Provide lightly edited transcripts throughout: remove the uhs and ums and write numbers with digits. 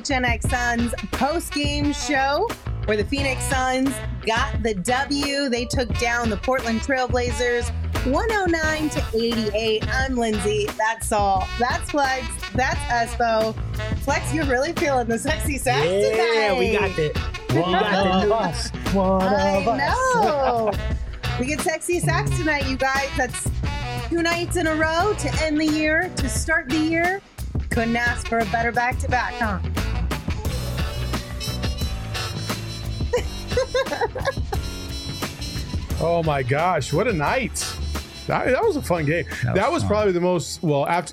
PHNX Suns post-game show where the Phoenix Suns got the W. They took down the Portland Trailblazers 109-88. I'm Lindsay. That's Saul. That's Flex. That's Espo. Flex, you're really feeling the sexy sax tonight. Yeah, we got it. One of us. I know. We get sexy sax tonight, you guys. That's 2 nights in a row to end the year, to start the year. Couldn't ask for a better back-to-back, huh? Oh my gosh, what a night. That was a fun game. That was probably the most, after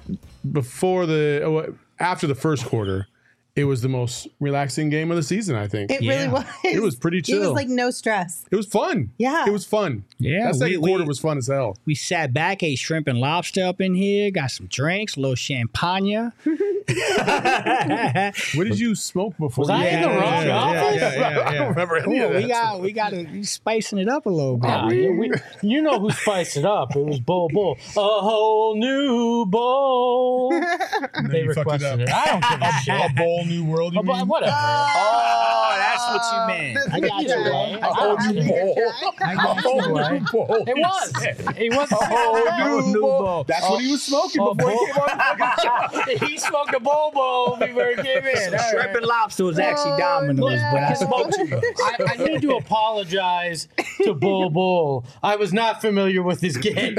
the first quarter, it was the most relaxing game of the season, I think. It really was. It was pretty chill. It was like no stress. It was fun. Yeah. It was fun. Yeah, that second quarter was fun as hell. We sat back, ate shrimp and lobster up in here, got some drinks, a little champagne. What did you smoke before? Was I in the wrong office? I don't remember any of that. We got to spicing it up a little bit. You know who spiced it up. It was Bull Bull. A whole new bowl. They you fucked requested it it. up. I don't give a shit. A bowl new world, you mean? Whatever. Oh, that's what you meant. I got you, right? A whole new bowl. I got you, right? It was. It was a whole new bowl. That's what he was smoking before he came on the fucking show. He smoked a Bull Bull before he came in. All Shrimp right. and lobster was actually Domino's, but I smoked you. I need to apologize to Bull Bull. I was not familiar with his game.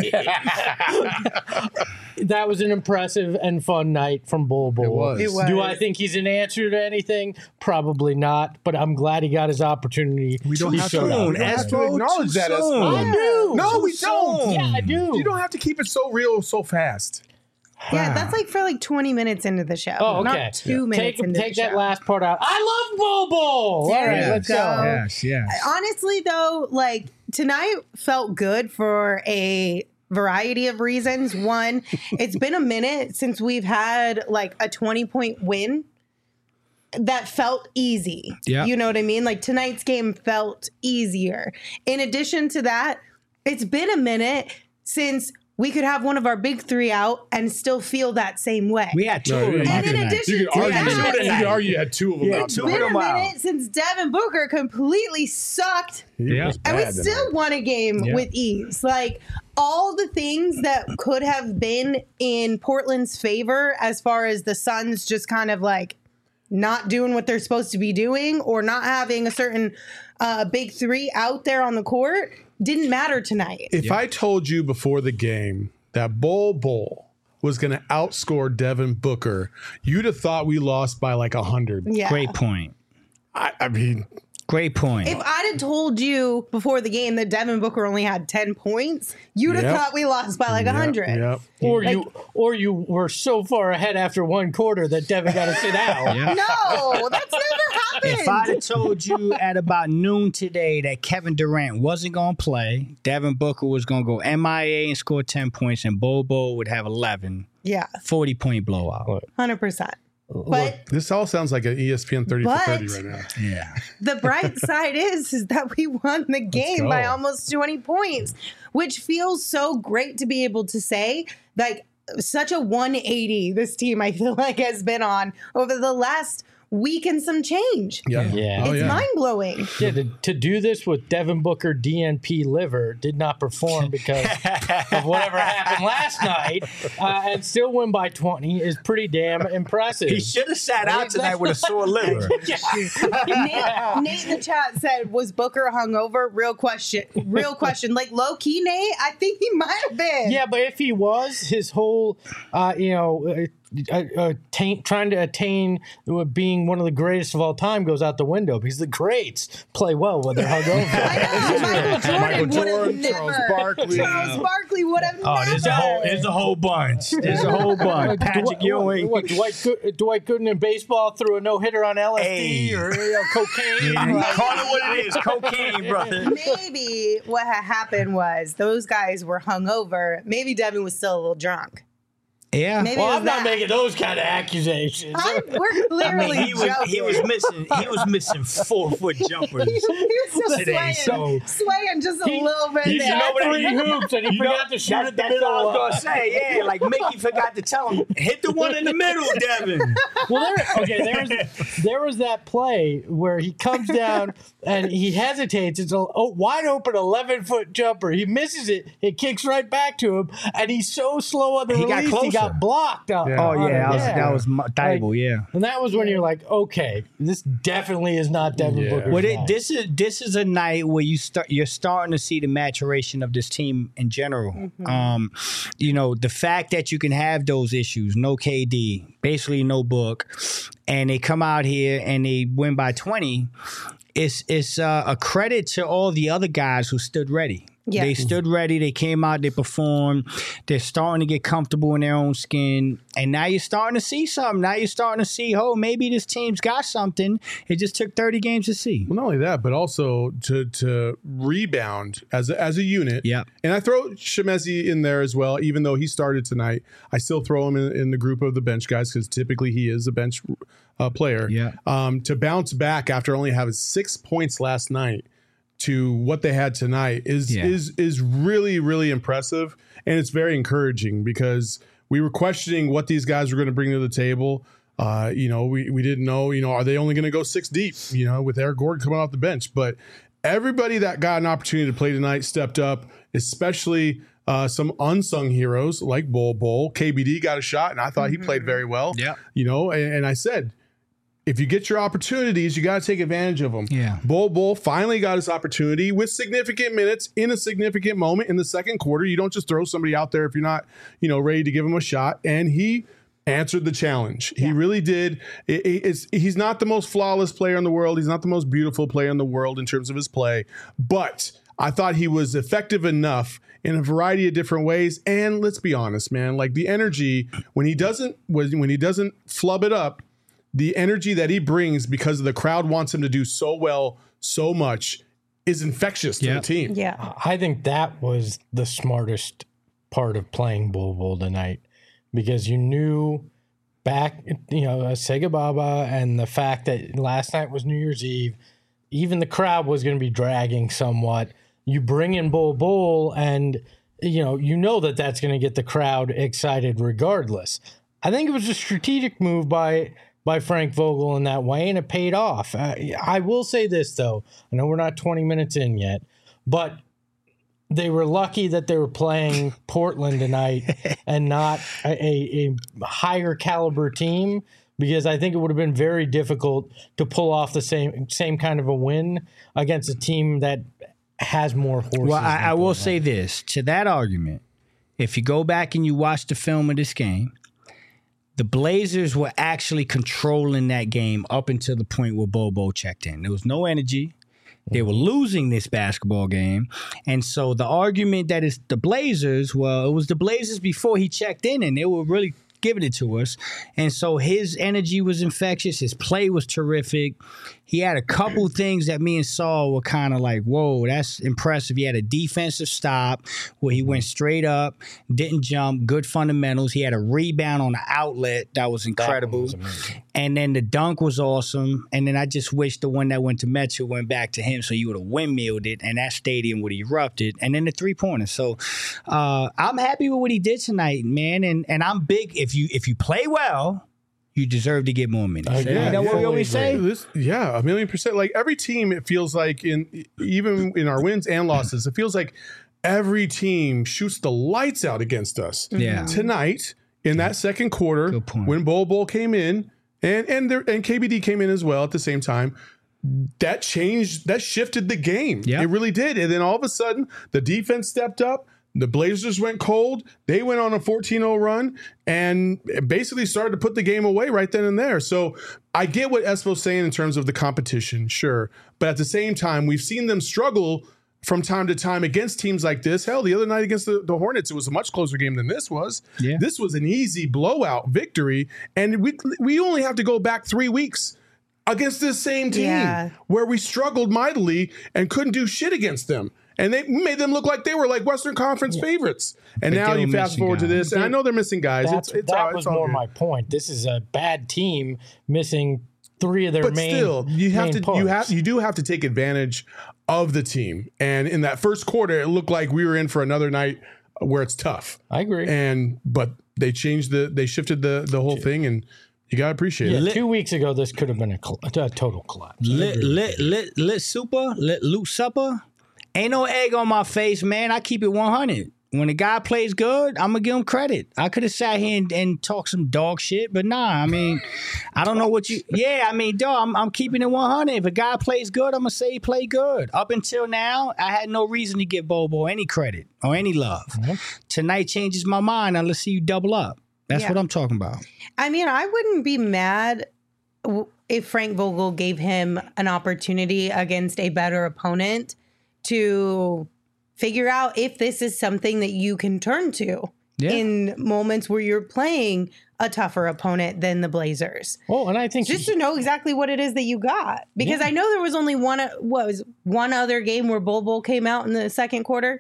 That was an impressive and fun night from Bull Bull. It was. It was. Do I think he's an answer to anything? Probably not, but I'm glad he got his opportunity. We don't He have to, showed up. we don't have to acknowledge that. As I do. No, we don't. Yeah, I do. You don't have to keep it so real so fast. Yeah, that's like for like 20 minutes into the show. Oh, okay. Not 2 minutes into Take the that show. last part out. I love Bull Bull. There All right, you let's go. go. Yes. Honestly, though, like tonight felt good for a variety of reasons. One, it's been a minute since we've had like a 20-point win that felt easy. Yeah. You know what I mean? Like tonight's game felt easier. In addition to that, it's been a minute since we could have one of our big three out and still feel that same way. We had two of them. And in tonight. addition You to could argue, that, you could argue you had two of them out. it's been a minute since Devin Booker completely sucked. Yeah. And we still won a game with ease. Like all the things that could have been in Portland's favor as far as the Suns just kind of like not doing what they're supposed to be doing or not having a certain big three out there on the court didn't matter tonight. If I told you before the game that Bull Bull was going to outscore Devin Booker, you'd have thought we lost by like 100. Yeah. Great point. I mean, Great point. If I'd have told you before the game that Devin Booker only had 10 points, you'd have Yep. thought we lost by like 100. Yep. Or you were so far ahead after one quarter that Devin got to sit out. Yeah. No, that's never happened. If I'd have told you at about noon today that Kevin Durant wasn't going to play, Devin Booker was going to go MIA and score 10 points, and Bobo would have 11, Yeah, 40-point blowout. 100%. But This all sounds like an ESPN 30 for 30 right now. Yeah. the bright side is that we won the game by almost 20 points, which feels so great to be able to say. Like such a 180 this team, I feel like, has been on over the last week and some change. Yeah. Yeah. Oh, It's yeah. mind-blowing. Yeah, to do this with Devin Booker DNP liver did not perform because of whatever happened last night and still win by 20 is pretty damn impressive. He should have sat out tonight with a sore liver. Nate in the chat said, was Booker hungover? Real question. Like low-key, Nate, I think he might have been. Yeah, but if he was, his whole, trying to attain being one of the greatest of all time goes out the window because the greats play well when they're hungover. Michael Jordan would have Charles never. Barkley. Charles Barkley would have Oh, never. there's a whole bunch. There's a whole bunch. Patrick Ewing. What, Dwight Gooden in baseball threw a no-hitter on LSD Hey. or cocaine? Call it what it is. Cocaine, brother. Maybe what had happened was those guys were hungover. Maybe Devin was still a little drunk. Yeah. Maybe Well, it was I'm not that. making those kind of accusations. We're clearly he was missing 4-foot jumpers. He was just today, swaying just a little bit He there. had 3 hoops and he forgot to shoot at the That's middle. what I was gonna say. Yeah, like Mickey forgot to tell him, hit the one in the middle, Devin. Well, there was that play where he comes down and he hesitates. It's a wide open 11-foot jumper. He misses it. It kicks right back to him, and he's so slow on the He got release. He got closer. blocked. Yeah. Oh yeah, Yeah. that was Thibault. Yeah. And that was when you're like, okay, this definitely is not Devin Yeah. Booker's Well, night. this is a night where you're starting to see the maturation of this team in general. The fact that you can have those issues, no KD, basically no Book, and they come out here and they win by 20. It's a credit to all the other guys who stood ready. Yeah. They stood ready. They came out. They performed. They're starting to get comfortable in their own skin. And now you're starting to see something. Now you're starting to see, maybe this team's got something. It just took 30 games to see. Well, not only that, but also to rebound as a unit. Yeah. And I throw Shemezi in there as well, even though he started tonight. I still throw him in the group of the bench guys because typically he is a bench player. Yeah. To bounce back after only having 6 points last night to what they had tonight is really, really impressive. And it's very encouraging because we were questioning what these guys were going to bring to the table. We didn't know, are they only going to go 6 deep, with Eric Gordon coming off the bench? But everybody that got an opportunity to play tonight stepped up, especially some unsung heroes like Bol. KBD got a shot, and I thought he played very well. Yeah. And I said, if you get your opportunities, you got to take advantage of them. Yeah. Bol finally got his opportunity with significant minutes in a significant moment in the second quarter. You don't just throw somebody out there if you're not, ready to give him a shot. And he answered the challenge. He really did. He's not the most flawless player in the world. He's not the most beautiful player in the world in terms of his play. But I thought he was effective enough in a variety of different ways. And let's be honest, man, like the energy when he doesn't flub it up, the energy that he brings because the crowd wants him to do so well, so much is infectious to the team. Yeah. I think that was the smartest part of playing Bol tonight because you knew back, Sega Baba and the fact that last night was New Year's Eve, even the crowd was going to be dragging somewhat. You bring in Bol and, that's going to get the crowd excited regardless. I think it was a strategic move by Frank Vogel in that way, and it paid off. I will say this, though. I know we're not 20 minutes in yet, but they were lucky that they were playing Portland tonight and not a higher caliber team, because I think it would have been very difficult to pull off the same kind of a win against a team that has more horses. Well, I will say this. To that argument, if you go back and you watch the film of this game, the Blazers were actually controlling that game up until the point where Bol checked in. There was no energy. They were losing this basketball game. And so the argument that it's the Blazers, well, it was the Blazers before he checked in, and they were really giving it to us. And so his energy was infectious. His play was terrific. He had a couple things that me and Saul were kind of like, whoa, that's impressive. He had a defensive stop where he went straight up, didn't jump, good fundamentals. He had a rebound on the outlet that was incredible. And then the dunk was awesome. And then I just wish the one that went to Metro went back to him so he would have windmilled it and that stadium would have erupted. And then the three-pointer. So I'm happy with what he did tonight, man. And I'm big. If you play well, you deserve to get more minutes. Yeah, what we always say? 1,000,000%. Like every team, it feels like even in our wins and losses, it feels like every team shoots the lights out against us. Yeah. Tonight, in that second quarter, when Bol came in and KBD came in as well at the same time, that shifted the game. Yeah. It really did. And then all of a sudden, the defense stepped up. The Blazers went cold. They went on a 14-0 run and basically started to put the game away right then and there. So I get what Espo's saying in terms of the competition, sure. But at the same time, we've seen them struggle from time to time against teams like this. Hell, the other night against the Hornets, it was a much closer game than this was. Yeah. This was an easy blowout victory. And we only have to go back 3 weeks against this same team where we struggled mightily and couldn't do shit against them. And they made them look like they were like Western Conference favorites. And But now they you were fast missing forward to guys. this, and I know they're missing guys. That was more my point. This is a bad team missing 3 of their But main. still, you do have to take advantage of the team. And in that first quarter, it looked like we were in for another night where it's tough. I agree. But they shifted the whole thing, and you gotta appreciate it. 2 weeks ago, this could have been a total collapse. Lit supper. Ain't no egg on my face, man. I keep it 100. When a guy plays good, I'm gonna give him credit. I could have sat here and talked some dog shit, but nah. I mean, I don't know what you. Yeah, I mean, dog. I'm keeping it 100. If a guy plays good, I'm gonna say he played good. Up until now, I had no reason to give Bobo any credit or any love. Mm-hmm. Tonight changes my mind. Let's see you double up. That's what I'm talking about. I mean, I wouldn't be mad if Frank Vogel gave him an opportunity against a better opponent to figure out if this is something that you can turn to in moments where you're playing a tougher opponent than the Blazers. Oh, and I think just to know exactly what it is that you got, because I know there was only one other game where Bol came out in the second quarter,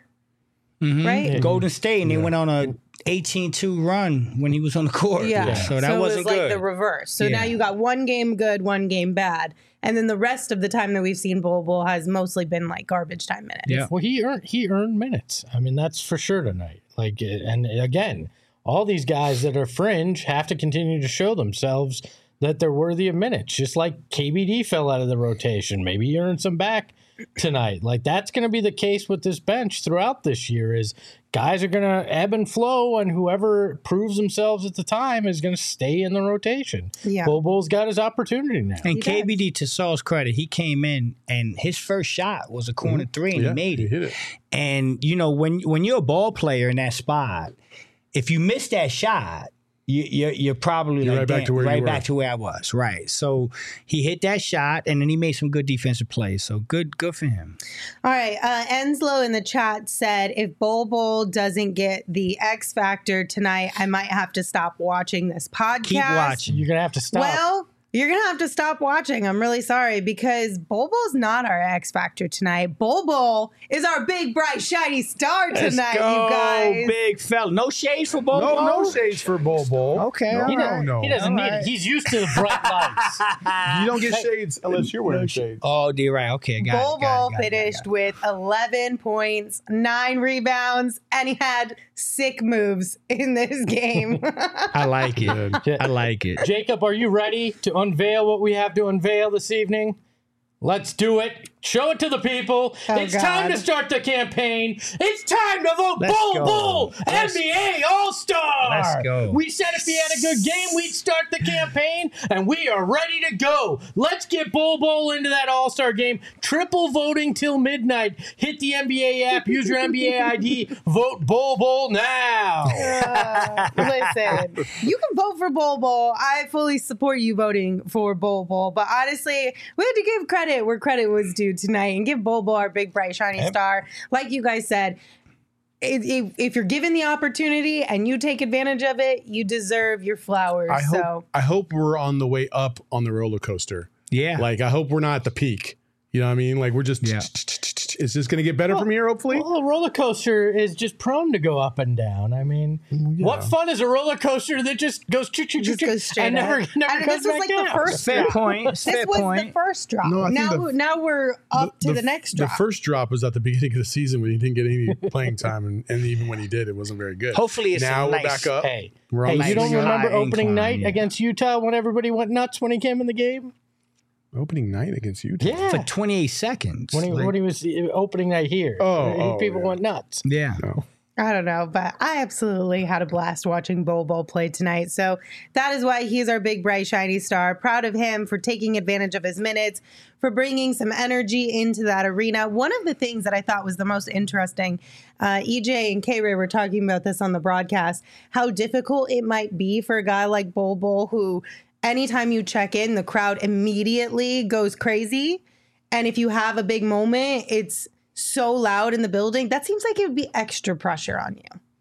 right? Yeah. Golden State, and they went on a 18-2 run when he was on the court. Yeah. So that wasn't it was like good. the reverse. So now you got one game good, one game bad. And then the rest of the time that we've seen Bol has mostly been like garbage time minutes. Yeah. Well, he earned minutes. I mean, that's for sure tonight. Like, and again, all these guys that are fringe have to continue to show themselves that they're worthy of minutes. Just like KBD fell out of the rotation. Maybe he earned some back tonight. Like, that's going to be the case with this bench throughout this year, is guys are going to ebb and flow, and whoever proves themselves at the time is going to stay in the rotation. Yeah. Bol's got his opportunity now. And KBD, to Saul's credit, he came in and his first shot was a corner three, and he made it. He hit it. And, you know, when you're a ball player in that spot, if you miss that shot, you're probably like, right back to where you were. back to where I was. Right. So he hit that shot, and then he made some good defensive plays. So good for him. All right. Enslow in the chat said, if Bol doesn't get the X Factor tonight, I might have to stop watching this podcast. Keep watching. You're going to have to stop. Well, you're going to have to stop watching. I'm really sorry, because Bol's not our X Factor tonight. Bol is our big, bright, shiny star tonight, Let's go, you guys. big fella. No shades for Bol. No shades for Bol. Okay. No. He doesn't need it. He's used to the bright lights. You don't get shades unless you're wearing shades. Oh, dear, right. Okay, got Bol it. finished with 11 points, 9 rebounds, and he had sick moves in this game. I like it. I like it. Jacob, are you ready to unveil what we have to unveil this evening? Let's do it. Show it to the people. It's time to start the campaign. It's time to vote Bol NBA All-Star. Let's go. We said if he had a good game, we'd start the campaign, and we are ready to go. Let's get Bol into that All-Star game. Triple voting till midnight. Hit the NBA app. Use your NBA ID. Vote Bol now. Listen, you can vote for Bol. I fully support you voting for Bol. But honestly, we had to give credit where credit was due tonight and give Bol our big, bright, shiny star. Like you guys said, if you're given the opportunity and you take advantage of it, you deserve your flowers. I hope we're on the way up on the roller coaster. Yeah. Like, I hope we're not at the peak. You know what I mean? Like, we're just, is this going to get better from here, hopefully? Well, a roller coaster is just prone to go up and down. I mean, what fun is a roller coaster that just goes and never and comes this was back like down? the first Fair drop. point. This Fair was point. the first drop. No, I think now we're up to the next drop. The first drop was at the beginning of the season when he didn't get any playing time, and even when he did, it wasn't very good. Hopefully it's now a we're nice, back up. Hey, We're on you don't nice remember high opening incline, night yeah. against Utah when everybody went nuts when he came in the game? Opening night against Utah. Yeah. For 28 seconds. When he was opening night here. People went nuts. Yeah. No. I don't know, but I absolutely had a blast watching Bol play tonight. So that is why he's our big, bright, shiny star. Proud of him for taking advantage of his minutes, for bringing some energy into that arena. One of the things that I thought was the most interesting, EJ and K-Ray were talking about this on the broadcast, how difficult it might be for a guy like Bol who anytime you check in, the crowd immediately goes crazy. And if you have a big moment, it's so loud in the building. That seems like it would be extra pressure on you.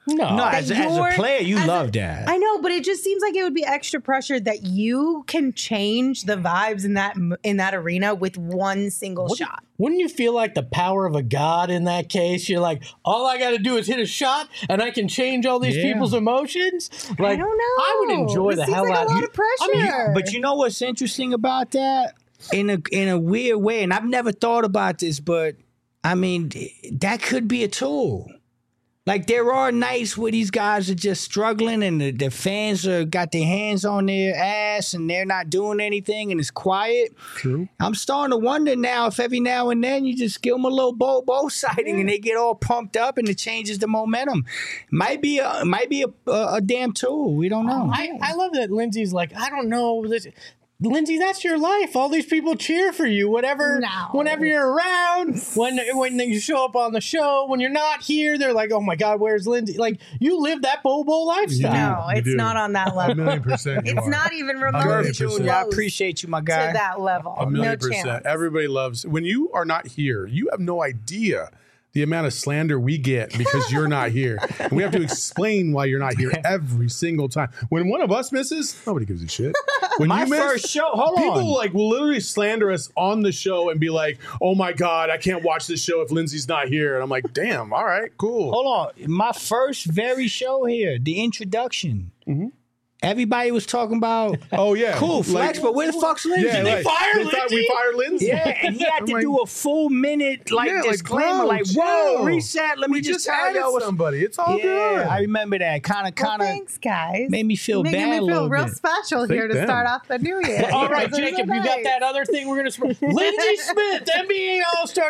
No, as a player, you love that. I know, but it just seems like it would be extra pressure that you can change the vibes in that arena with one single shot. Wouldn't you feel like the power of a god in that case? You're like, all I got to do is hit a shot, and I can change all these people's emotions. Like, I don't know. I would enjoy the hell out of it. A lot of pressure. But you know what's interesting about that? In a weird way, and I've never thought about this, but I mean, that could be a tool. Like, there are nights where these guys are just struggling and the fans are got their hands on their ass and they're not doing anything and it's quiet. True. I'm starting to wonder now if every now and then you just give them a little bow sighting and they get all pumped up and it changes the momentum. Might be a damn tool. We don't know. I love that Lindsay's like, I don't know. Lindsay, that's your life. All these people cheer for you. Whenever you're around, when you show up on the show, when you're not here, they're like, "Oh my God, where's Lindsay?" Like, you live that bowl lifestyle. No, it's not on that level. 1,000,000%. It's not even remotely close. I appreciate you, my guy. To that level, 1,000,000%. No chance. Everybody loves when you are not here. You have no idea the amount of slander we get because you're not here. And we have to explain why you're not here every single time. When one of us misses, nobody gives a shit. When My you miss, first show, hold on. people like will literally slander us on the show and be like, "Oh my God, I can't watch this show if Lindsay's not here." And I'm like, "Damn, all right, cool." Hold on. My first very show here, the introduction. Mm-hmm. Everybody was talking about, oh yeah, cool flex, but where the fuck's Lindsay? Yeah, they fire Lindsay? We fired Lindsay. Yeah, and he had to do a full minute disclaimer, whoa, reset. Let me just tell y'all somebody. It's all good. I remember that. Kind of. Thanks, guys. Made me feel bad a little feel real bit. special here to start off the new year. All right, Jacob, you got that other thing we're going to Lindsay Smith, NBA All-Star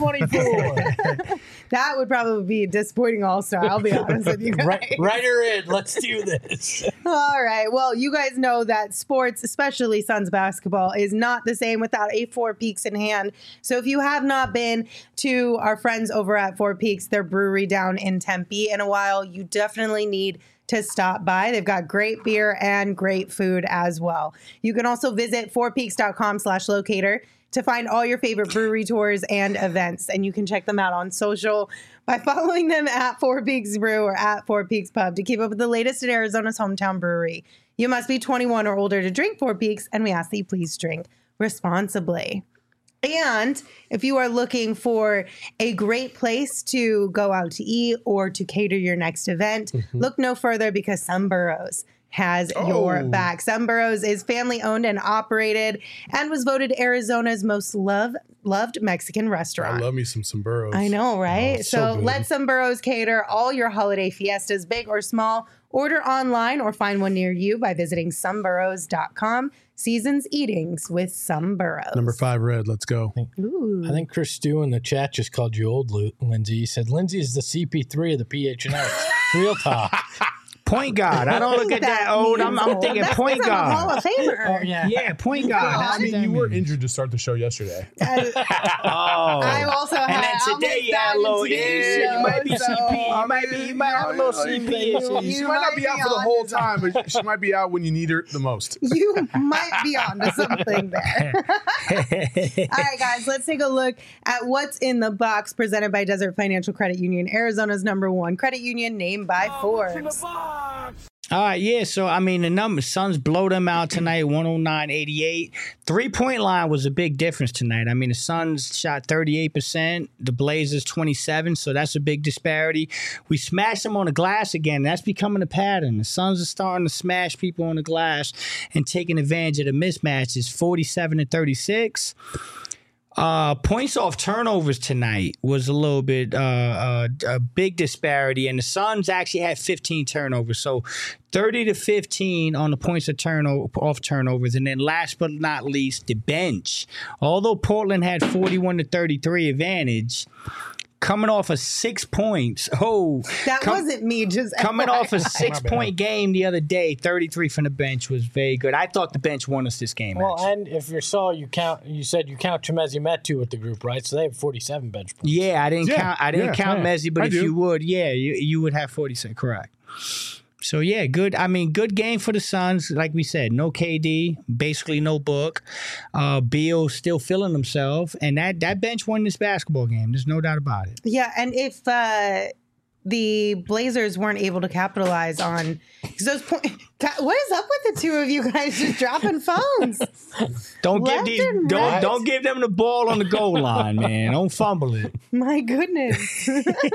2024. That would probably be a disappointing All-Star, I'll be honest with you guys. Write her in. Let's do this. All right. Well, you guys know that sports, especially Suns basketball, is not the same without a Four Peaks in hand. So if you have not been to our friends over at Four Peaks, their brewery down in Tempe in a while, you definitely need to stop by. They've got great beer and great food as well. You can also visit fourpeaks.com/locator to find all your favorite brewery tours and events. And you can check them out on social by following them at Four Peaks Brew or at Four Peaks Pub to keep up with the latest in Arizona's hometown brewery. You must be 21 or older to drink Four Peaks, and we ask that you please drink responsibly. And if you are looking for a great place to go out to eat or to cater your next event, look no further because Sunburrows has your back. Sunburrows is family owned and operated and was voted Arizona's most loved Mexican restaurant. I love me some Sunburrows. I know, right? Oh, so good. let Sunburrows cater all your holiday fiestas, big or small. Order online or find one near you by visiting sunburrows.com. Seasons Eatings with Sunburrows. Number 5 red. Let's go. Ooh. I think Chris Stew in the chat just called you old, Lindsay. He said Lindsay is the CP3 of the PHNX. Real talk. Point guard. I don't look at that old. I'm thinking point guard. Hall of Famer. Oh, yeah. Yeah, point guard. I mean, you were injured to start the show yesterday. I also had. And then today you had a little. Yeah, you might be CP. You might have a little CP issues. She might not be out for the whole time, but she might be out when you need her the most. You might be onto something there. All right, guys, let's take a look at what's in the box presented by Desert Financial Credit Union, Arizona's #1 credit union named by Forbes. All right, yeah. So, I mean, the numbers, Suns blow them out tonight, 109-88. 3-point line was a big difference tonight. I mean, the Suns shot 38%, the Blazers 27%, so that's a big disparity. We smashed them on the glass again. That's becoming a pattern. The Suns are starting to smash people on the glass and taking advantage of the mismatches, 47-36. Points off turnovers tonight was a little bit a big disparity, and the Suns actually had 15 turnovers, so 30-15 on the points of off turnovers, and then last but not least, the bench. Although Portland had 41-33 advantage, coming off of 6 points. Wasn't me. Just coming off a 6-point game the other day, 33 from the bench was very good. I thought the bench won us this game. Well, actually. and if you saw, you said you count Chemezi Metu with the group, right? So they have 47 bench points. Yeah, I didn't count Mezzi, but if you would, you would have 46. Correct. So, yeah, good. I mean, good game for the Suns. Like we said, no KD, basically no Book. Beal still feeling himself. And that bench won this basketball game. There's no doubt about it. Yeah, and if the Blazers weren't able to capitalize on those points. What is up with the two of you guys just dropping phones? Don't give them the ball on the goal line, man. Don't fumble it. My goodness.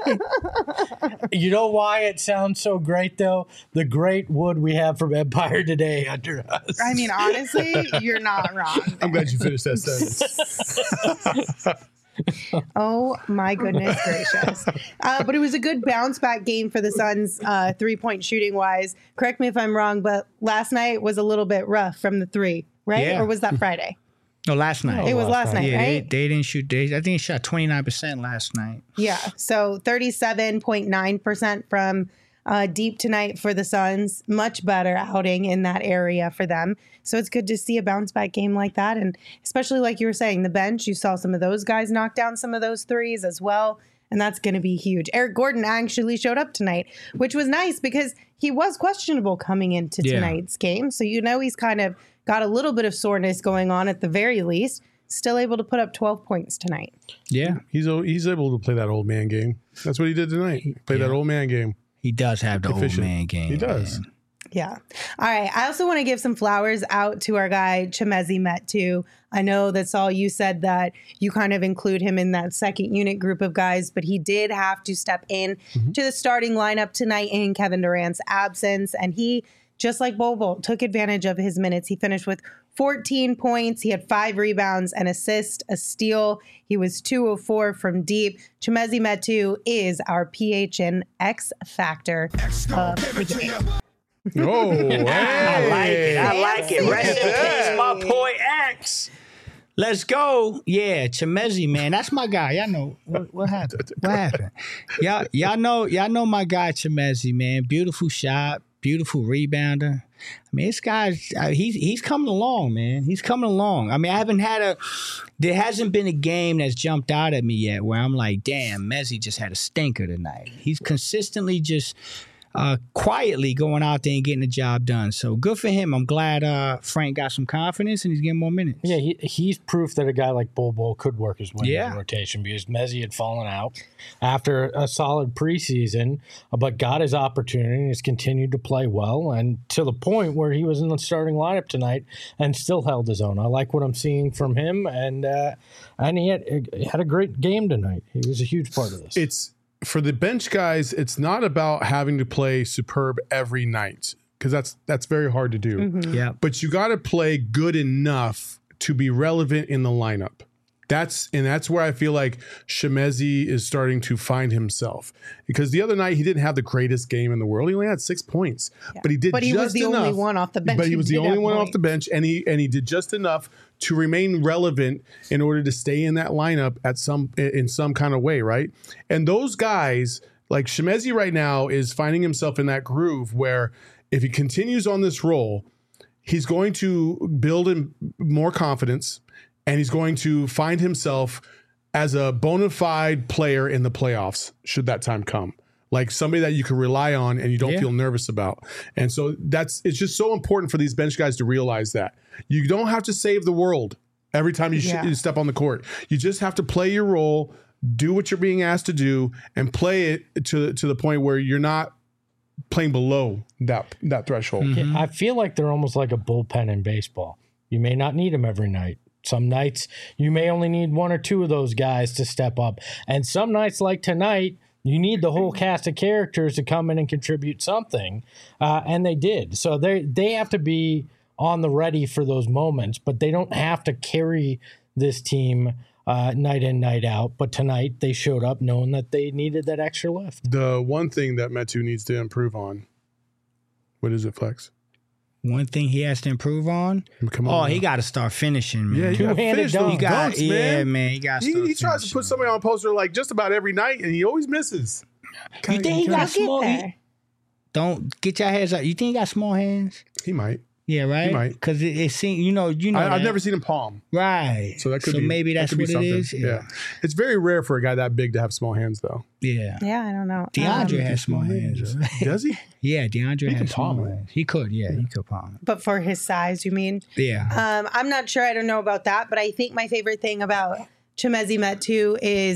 You know why it sounds so great, though? The great wood we have from Empire Today under us. I mean, honestly, you're not wrong. I'm glad you finished that sentence. Oh my goodness gracious. But it was a good bounce back game for the Suns 3-point shooting wise. Correct me if I'm wrong, but last night was a little bit rough from the three, right? Yeah. Or was that Friday? No, last night. It was last night, Yeah, right? they didn't shoot. I think they shot 29% last night. Yeah. So 37.9% from deep tonight for the Suns. Much better outing in that area for them. So it's good to see a bounce back game like that. And especially like you were saying, the bench, you saw some of those guys knock down some of those threes as well. And that's going to be huge. Eric Gordon actually showed up tonight, which was nice because he was questionable coming into tonight's game. So, he's kind of got a little bit of soreness going on at the very least. Still able to put up 12 points tonight. Yeah. He's able to play that old man game. That's what he did tonight. Play that old man game. He does have the Efficient. old man game. He does. Man. Yeah. All right. I also want to give some flowers out to our guy, Chimezie Metu. I know that's all you said that you kind of include him in that second unit group of guys, but he did have to step in to the starting lineup tonight in Kevin Durant's absence. And he, just like Bobo, took advantage of his minutes. He finished with 14 points. He had 5 rebounds, an assist, a steal. He was 2 of 4 from deep. Chimezie Metu is our PHN X Factor of the game. Oh, hey. I like it. Rest in peace, my boy X. Let's go. Yeah, Chimezie, man. That's my guy. Y'all know what happened. What happened? Y'all know my guy Chimezie, man. Beautiful shot, beautiful rebounder. I mean, this guy's he's coming along, man. He's coming along. I mean, there hasn't been a game that's jumped out at me yet where I'm like, damn, Mezzy just had a stinker tonight. He's consistently just quietly going out there and getting the job done. So good for him. I'm glad Frank got some confidence and he's getting more minutes. Yeah, he's proof that a guy like Bol could work his way in the rotation because Mezzy had fallen out after a solid preseason, but got his opportunity and has continued to play well, and to the point where he was in the starting lineup tonight and still held his own. I like what I'm seeing from him, and he had a great game tonight. He was a huge part of this. For the bench guys, it's not about having to play superb every night because that's very hard to do. Mm-hmm. Yeah. But you got to play good enough to be relevant in the lineup. That's where I feel like Chimezie is starting to find himself, because the other night he didn't have the greatest game in the world. He only had 6 points, but he did. But he was the only one off the bench. But he was the only one off the bench, and he did just enough to remain relevant in order to stay in that lineup in some kind of way, right? And those guys, like Chimezie right now, is finding himself in that groove where if he continues on this role, he's going to build in more confidence. And he's going to find himself as a bona fide player in the playoffs, should that time come. Like somebody that you can rely on and you don't feel nervous about. And so it's just so important for these bench guys to realize that. You don't have to save the world every time you step on the court. You just have to play your role, do what you're being asked to do, and play it to the point where you're not playing below that threshold. Mm-hmm. I feel like they're almost like a bullpen in baseball. You may not need them every night. Some nights you may only need 1 or 2 of those guys to step up. And some nights like tonight, you need the whole cast of characters to come in and contribute something. And they did. So they have to be on the ready for those moments, but they don't have to carry this team night in, night out. But tonight they showed up knowing that they needed that extra lift. The one thing that Metu needs to improve on, what is it, Flex? One thing he has to improve on. Come on, he got to start finishing, man. Yeah, you got to finish those dunks, man. He got. He tries to put somebody on a poster like just about every night, and he always misses. You think he got small? Don't get your hands up. You think he got small hands? He might. Yeah, right. He might, because it seems I've never seen him palm. Right. So that could be. Maybe that's what it is. Yeah. It's very rare for a guy that big to have small hands, though. Yeah. Yeah, I don't know. DeAndre has small hands. Does he? Yeah, DeAndre has small palm hands. He could. Yeah, he could palm. But for his size, you mean? Yeah. I'm not sure. I don't know about that, but I think my favorite thing about Chimezie Metu is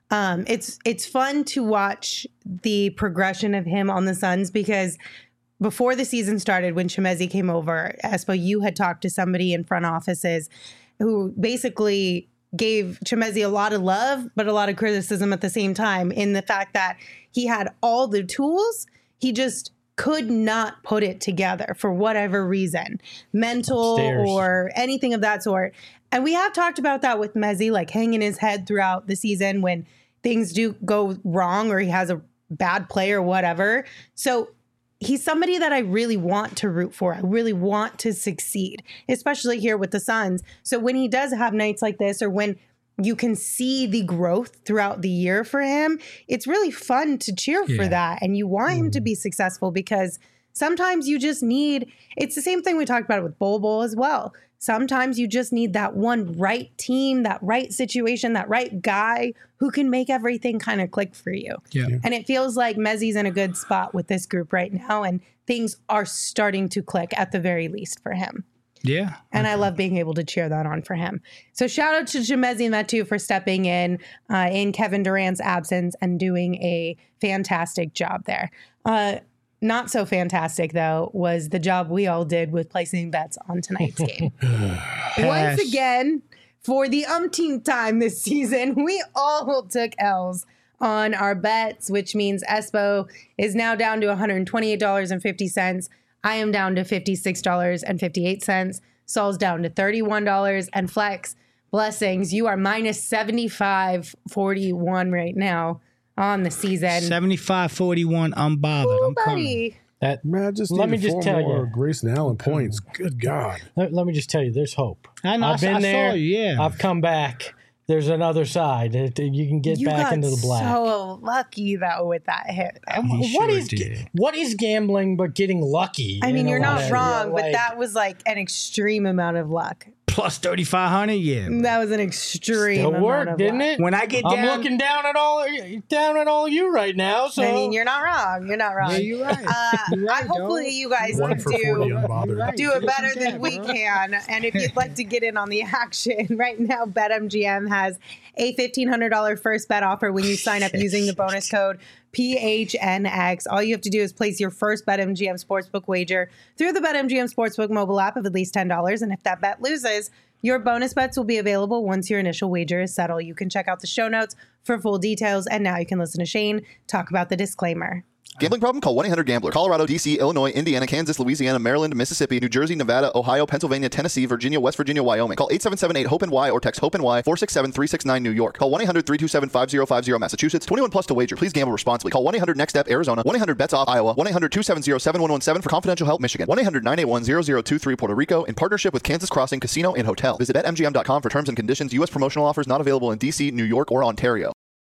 It's fun to watch the progression of him on the Suns because before the season started, when Chimezie came over, Espo, you had talked to somebody in front offices who basically gave Chimezie a lot of love, but a lot of criticism at the same time in the fact that he had all the tools. He just could not put it together for whatever reason, mental Upstairs. or anything of that sort. And we have talked about that with Mezzi, like hanging his head throughout the season when things do go wrong or he has a bad play or whatever. So he's somebody that I really want to root for. I really want to succeed, especially here with the Suns. So when he does have nights like this, or when you can see the growth throughout the year for him, it's really fun to cheer for that. And you want him to be successful because sometimes you just need, it's the same thing we talked about with Bol Bol as well. Sometimes you just need that one right team, that right situation, that right guy who can make everything kind of click for you. Yeah. And it feels like Mezzie's in a good spot with this group right now, and things are starting to click at the very least for him. Yeah. And I love being able to cheer that on for him. So shout out to Chimezie and Metu for stepping in Kevin Durant's absence and doing a fantastic job there. Not so fantastic, though, was the job we all did with placing bets on tonight's game. Once again, for the umpteenth time this season, we all took L's on our bets, which means Espo is now down to $128.50. I am down to $56.58. Saul's down to $31. And Flex, blessings, you are minus 75.41 right now on the season. 75-41 unbothered. Ooh, I'm coming. buddy. That Man, I just let me needed just four tell more you. Grayson Allen points. Good God. Let me just tell you, there's hope. I know. I've been I there. saw you, yeah. I've come back. There's another side. You can get You back got into the black. so lucky, though, with that hit. He What sure is did. what is gambling but getting lucky? I mean, in a you're lot not of- wrong, but like, that was like an extreme amount of luck. Plus 3,500, yeah. That was an extreme still amount worked, of didn't luck. it? When I get I'm down, looking down at all you right now. So I mean, you're not wrong. You're not wrong. yeah, you're right. You're right, Hopefully, you guys 1 can for 40 do unbothered. it better than we can. And if you'd like to get in on the action, right now, BetMGM has a $1,500 first bet offer when you sign up using the bonus code PHNX. All you have to do is place your first BetMGM Sportsbook wager through the BetMGM Sportsbook mobile app of at least $10. And if that bet loses, your bonus bets will be available once your initial wager is settled. You can check out the show notes for full details. And now you can listen to Shane talk about the disclaimer. Gambling problem? Call 1-800-GAMBLER. Colorado, D.C., Illinois, Indiana, Kansas, Louisiana, Maryland, Mississippi, New Jersey, Nevada, Ohio, Pennsylvania, Tennessee, Virginia, West Virginia, Wyoming. Call 877-8-HOPE-NY or text HOPE-NY 467-369 New York. Call 1-800-327-5050 Massachusetts. 21 plus to wager. Please gamble responsibly. Call 1-800-NEXT-STEP Arizona. 1-800-BETS-OFF Iowa. 1-800-270-7117 for confidential help Michigan. 1-800-981-0023 Puerto Rico in partnership with Kansas Crossing Casino and Hotel. Visit BetMGM.com for terms and conditions. U.S. promotional offers not available in D.C., New York, or Ontario.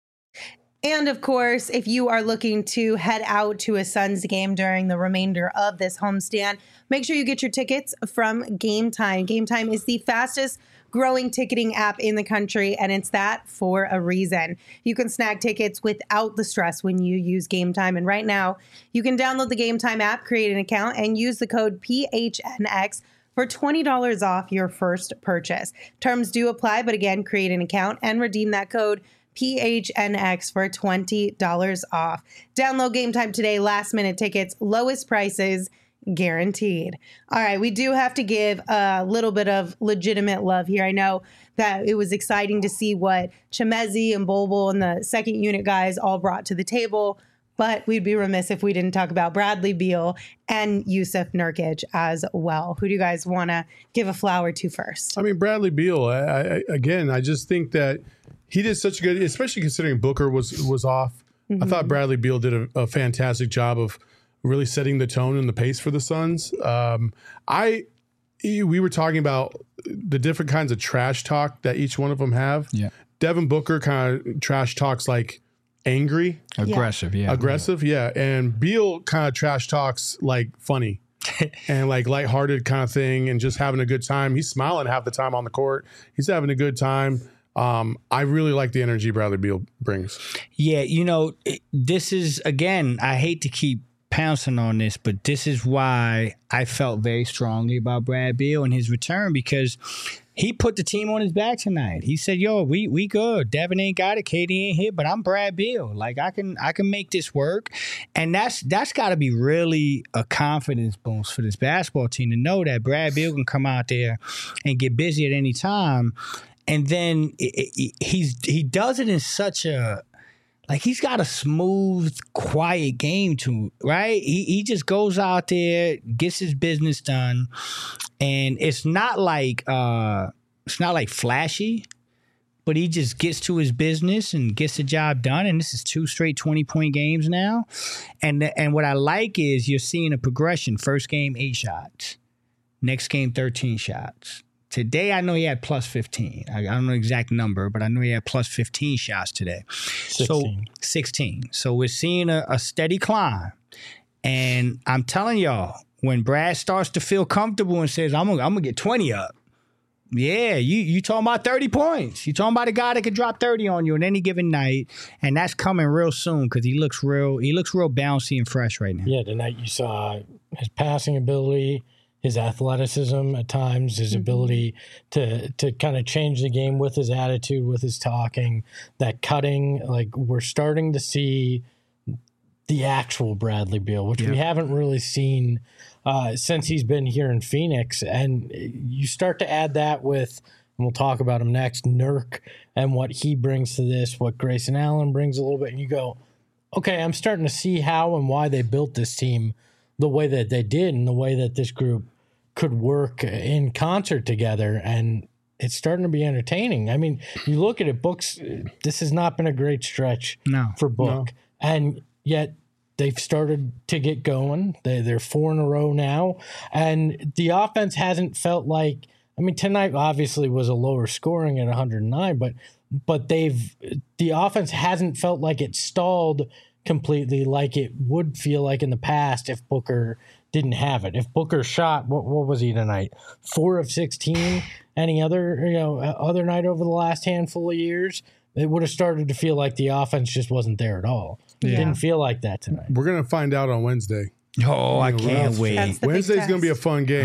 And of course, if you are looking to head out to a Suns game during the remainder of this homestand, make sure you get your tickets from Game Time. Game Time is the fastest growing ticketing app in the country, and it's that for a reason. You can snag tickets without the stress when you use Game Time. And right now, you can download the Game Time app, create an account, and use the code PHNX for $20 off your first purchase. Terms do apply, but again, create an account and redeem that code PHNX for $20 off. Download Game Time today. Last minute tickets, lowest prices guaranteed. All right, we do have to give a little bit of legitimate love here. I know that it was exciting to see what Chimezie and Bol Bol and the second unit guys all brought to the table, but we'd be remiss if we didn't talk about Bradley Beal and Yusuf Nurkic as well. Who do you guys want to give a flower to first? I mean, Bradley Beal, I just think that he did such a good, especially considering Booker was off. I thought Bradley Beal did a fantastic job of really setting the tone and the pace for the Suns. We were talking about the different kinds of trash talk that each one of them have. Yeah. Devin Booker kind of trash talks like angry, Aggressive, yeah. and Beal kind of trash talks like funny. And like lighthearted kind of thing and just having a good time. He's smiling half the time on the court. He's having a good time. I really like the energy Bradley Beal brings. Yeah, this is, again, I hate to keep pouncing on this, but this is why I felt very strongly about Brad Beal and his return, because he put the team on his back tonight. He said, "Yo, we good. Devin ain't got it. KD ain't here, but I'm Brad Beal. Like I can make this work." And that's got to be really a confidence boost for this basketball team to know that Brad Beal can come out there and get busy at any time. And then he does it in such a, like, he's got a smooth, quiet game to, right? He just goes out there, gets his business done, and it's not like flashy, but he just gets to his business and gets the job done. And this is 2 straight 20-point games now. And what I like is you're seeing a progression. First game, 8 shots. Next game, 13 shots. Today, I know he had plus 15. I don't know the exact number, but I know he had plus 15 shots today. 16. So 16. So we're seeing a steady climb. And I'm telling y'all, when Brad starts to feel comfortable and says, I'm gonna get 20 up, yeah, you talking about 30 points. You talking about a guy that could drop 30 on you on any given night, and that's coming real soon because he looks real bouncy and fresh right now. Yeah, tonight you saw his passing ability, his athleticism at times, his ability to kind of change the game with his attitude, with his talking, that cutting. Like, we're starting to see the actual Bradley Beal, which we haven't really seen since he's been here in Phoenix. And you start to add that with, and we'll talk about him next, Nurk and what he brings to this, what Grayson Allen brings a little bit, and you go, okay, I'm starting to see how and why they built this team the way that they did and the way that this group could work in concert together. And it's starting to be entertaining. I mean, you look at it, Book's, this has not been a great stretch for Book. And yet they've started to get going. They're 4 in a row now. And the offense hasn't felt like, I mean, tonight obviously was a lower scoring at 109, but the offense hasn't felt like it stalled completely like it would feel like in the past if Booker didn't have it. If Booker shot, what was he tonight? 4 of 16. Any other night over the last handful of years, it would have started to feel like the offense just wasn't there at all. It didn't feel like that tonight. We're gonna find out on Wednesday. Oh, I can't wait. Wednesday's gonna be a fun game.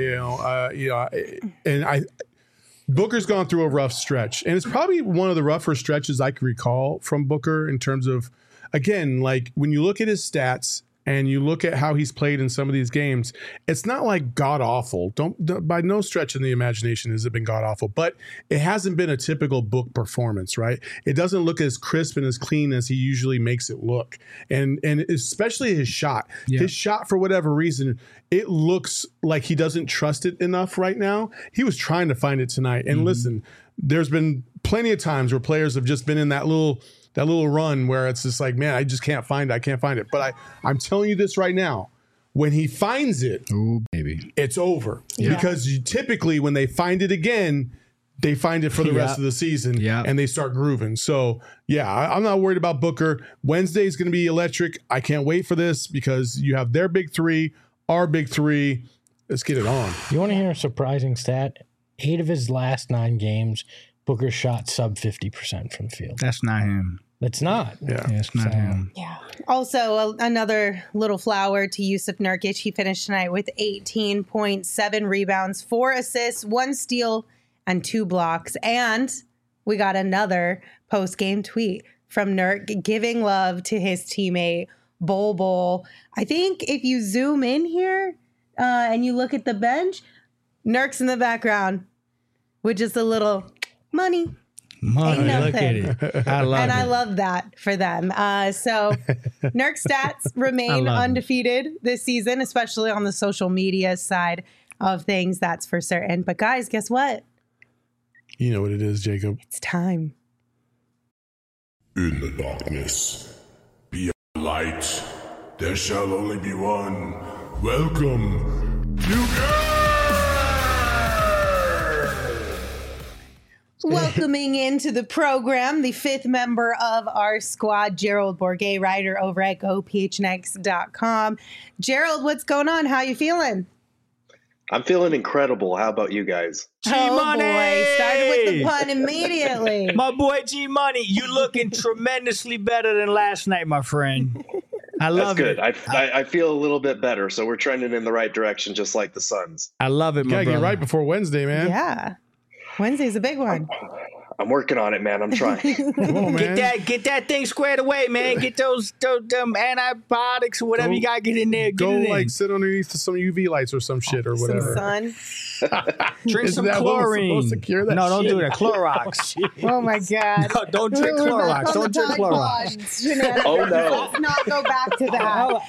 And Booker's gone through a rough stretch, and it's probably one of the rougher stretches I can recall from Booker in terms of, again, like when you look at his stats and you look at how he's played in some of these games, it's not like god awful. Don't by no stretch in the imagination has it been god awful, but it hasn't been a typical Book performance, right? It doesn't look as crisp and as clean as he usually makes it look, and especially his shot. Yeah. His shot, for whatever reason, it looks like he doesn't trust it enough right now. He was trying to find it tonight, and listen, there's been plenty of times where players have just been in that little run where it's just like, man, I just can't find it. I can't find it. But I'm telling you this right now, when he finds it, ooh, baby, it's over. Yeah. Because typically when they find it again, they find it for the rest of the season and they start grooving. So, yeah, I'm not worried about Booker. Wednesday's going to be electric. I can't wait for this because you have their big 3, our big 3. Let's get it on. You want to hear a surprising stat? 8 of his last 9 games, Booker shot sub 50% from the field. That's not him. It's not. Yeah, it's not him. Yeah. Also, another little flower to Jusuf Nurkic. He finished tonight with 18.7 rebounds, 4 assists, 1 steal, and 2 blocks. And we got another post-game tweet from Nurk giving love to his teammate, Bol Bol. I think if you zoom in here and you look at the bench, Nurk's in the background with just a little money. Look at it. I love it. I love that for them. So Nurk stats remain undefeated this season, especially on the social media side of things. That's for certain. But guys, guess what? You know what it is, Jacob. It's time. In the darkness, be a light. There shall only be one. Welcome, Welcoming into the program, the 5th member of our squad, Gerald Bourguet, writer over at GoPHNX.com. Gerald, what's going on? How you feeling? I'm feeling incredible. How about you guys? G-Money! Boy, started with the pun immediately. My boy G-Money, you looking tremendously better than last night, my friend. I love it. That's good. I feel a little bit better, so we're trending in the right direction, just like the Suns. I love it, my brother. Gotta get right before Wednesday, man. Yeah. Wednesday's a big one. I'm working on it, man. I'm trying. Come on, man. Get that thing squared away, man. Get those antibiotics or whatever you gotta get in there. Go like sit underneath some UV lights or some shit or whatever. Some sun. Drink some Isn't that what was chlorine. supposed to cure that No, don't shit? do that. Clorox. Oh my God. No, don't drink Clorox. Don't drink Clorox. Oh, no. Let's not go back to that.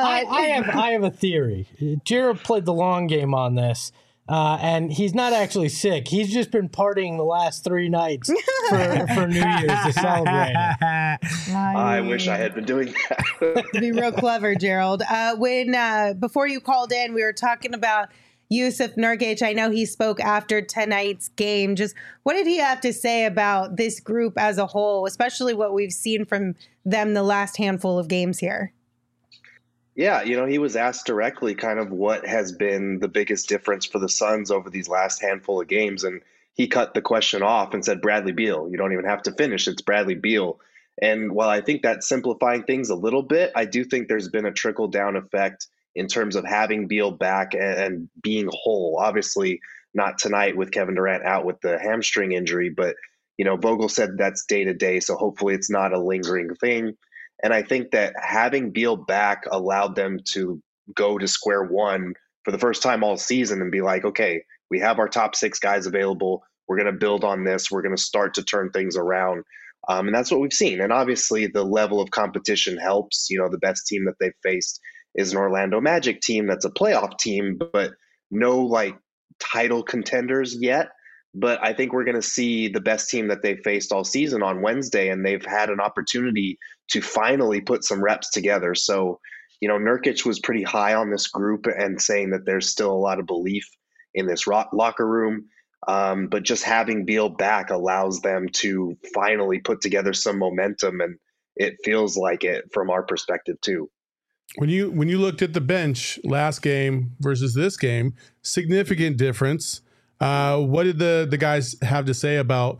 I have a theory. Jared played the long game on this. And he's not actually sick. He's just been partying the last 3 nights for New Year's to celebrate it. I wish I had been doing that. Be real clever, Gerald. When before you called in, we were talking about Jusuf Nurkic. I know he spoke after tonight's game. Just what did he have to say about this group as a whole, especially what we've seen from them the last handful of games here? Yeah, he was asked directly kind of what has been the biggest difference for the Suns over these last handful of games. And he cut the question off and said, Bradley Beal. You don't even have to finish. It's Bradley Beal. And while I think that's simplifying things a little bit, I do think there's been a trickle down effect in terms of having Beal back and being whole. Obviously, not tonight with Kevin Durant out with the hamstring injury, but, Vogel said that's day to day. So hopefully it's not a lingering thing. And I think that having Beal back allowed them to go to square one for the first time all season and be like, okay, we have our top 6 guys available. We're going to build on this. We're going to start to turn things around. And that's what we've seen. And obviously the level of competition helps. The best team that they've faced is an Orlando Magic team that's a playoff team, but no title contenders yet. But I think we're going to see the best team that they've faced all season on Wednesday, and they've had an opportunity to finally put some reps together. So, Nurkic was pretty high on this group and saying that there's still a lot of belief in this locker room. But just having Beal back allows them to finally put together some momentum, and it feels like it from our perspective too. When you looked at the bench last game versus this game, significant difference. What did the guys have to say about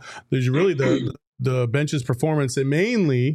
the bench's performance, and mainly,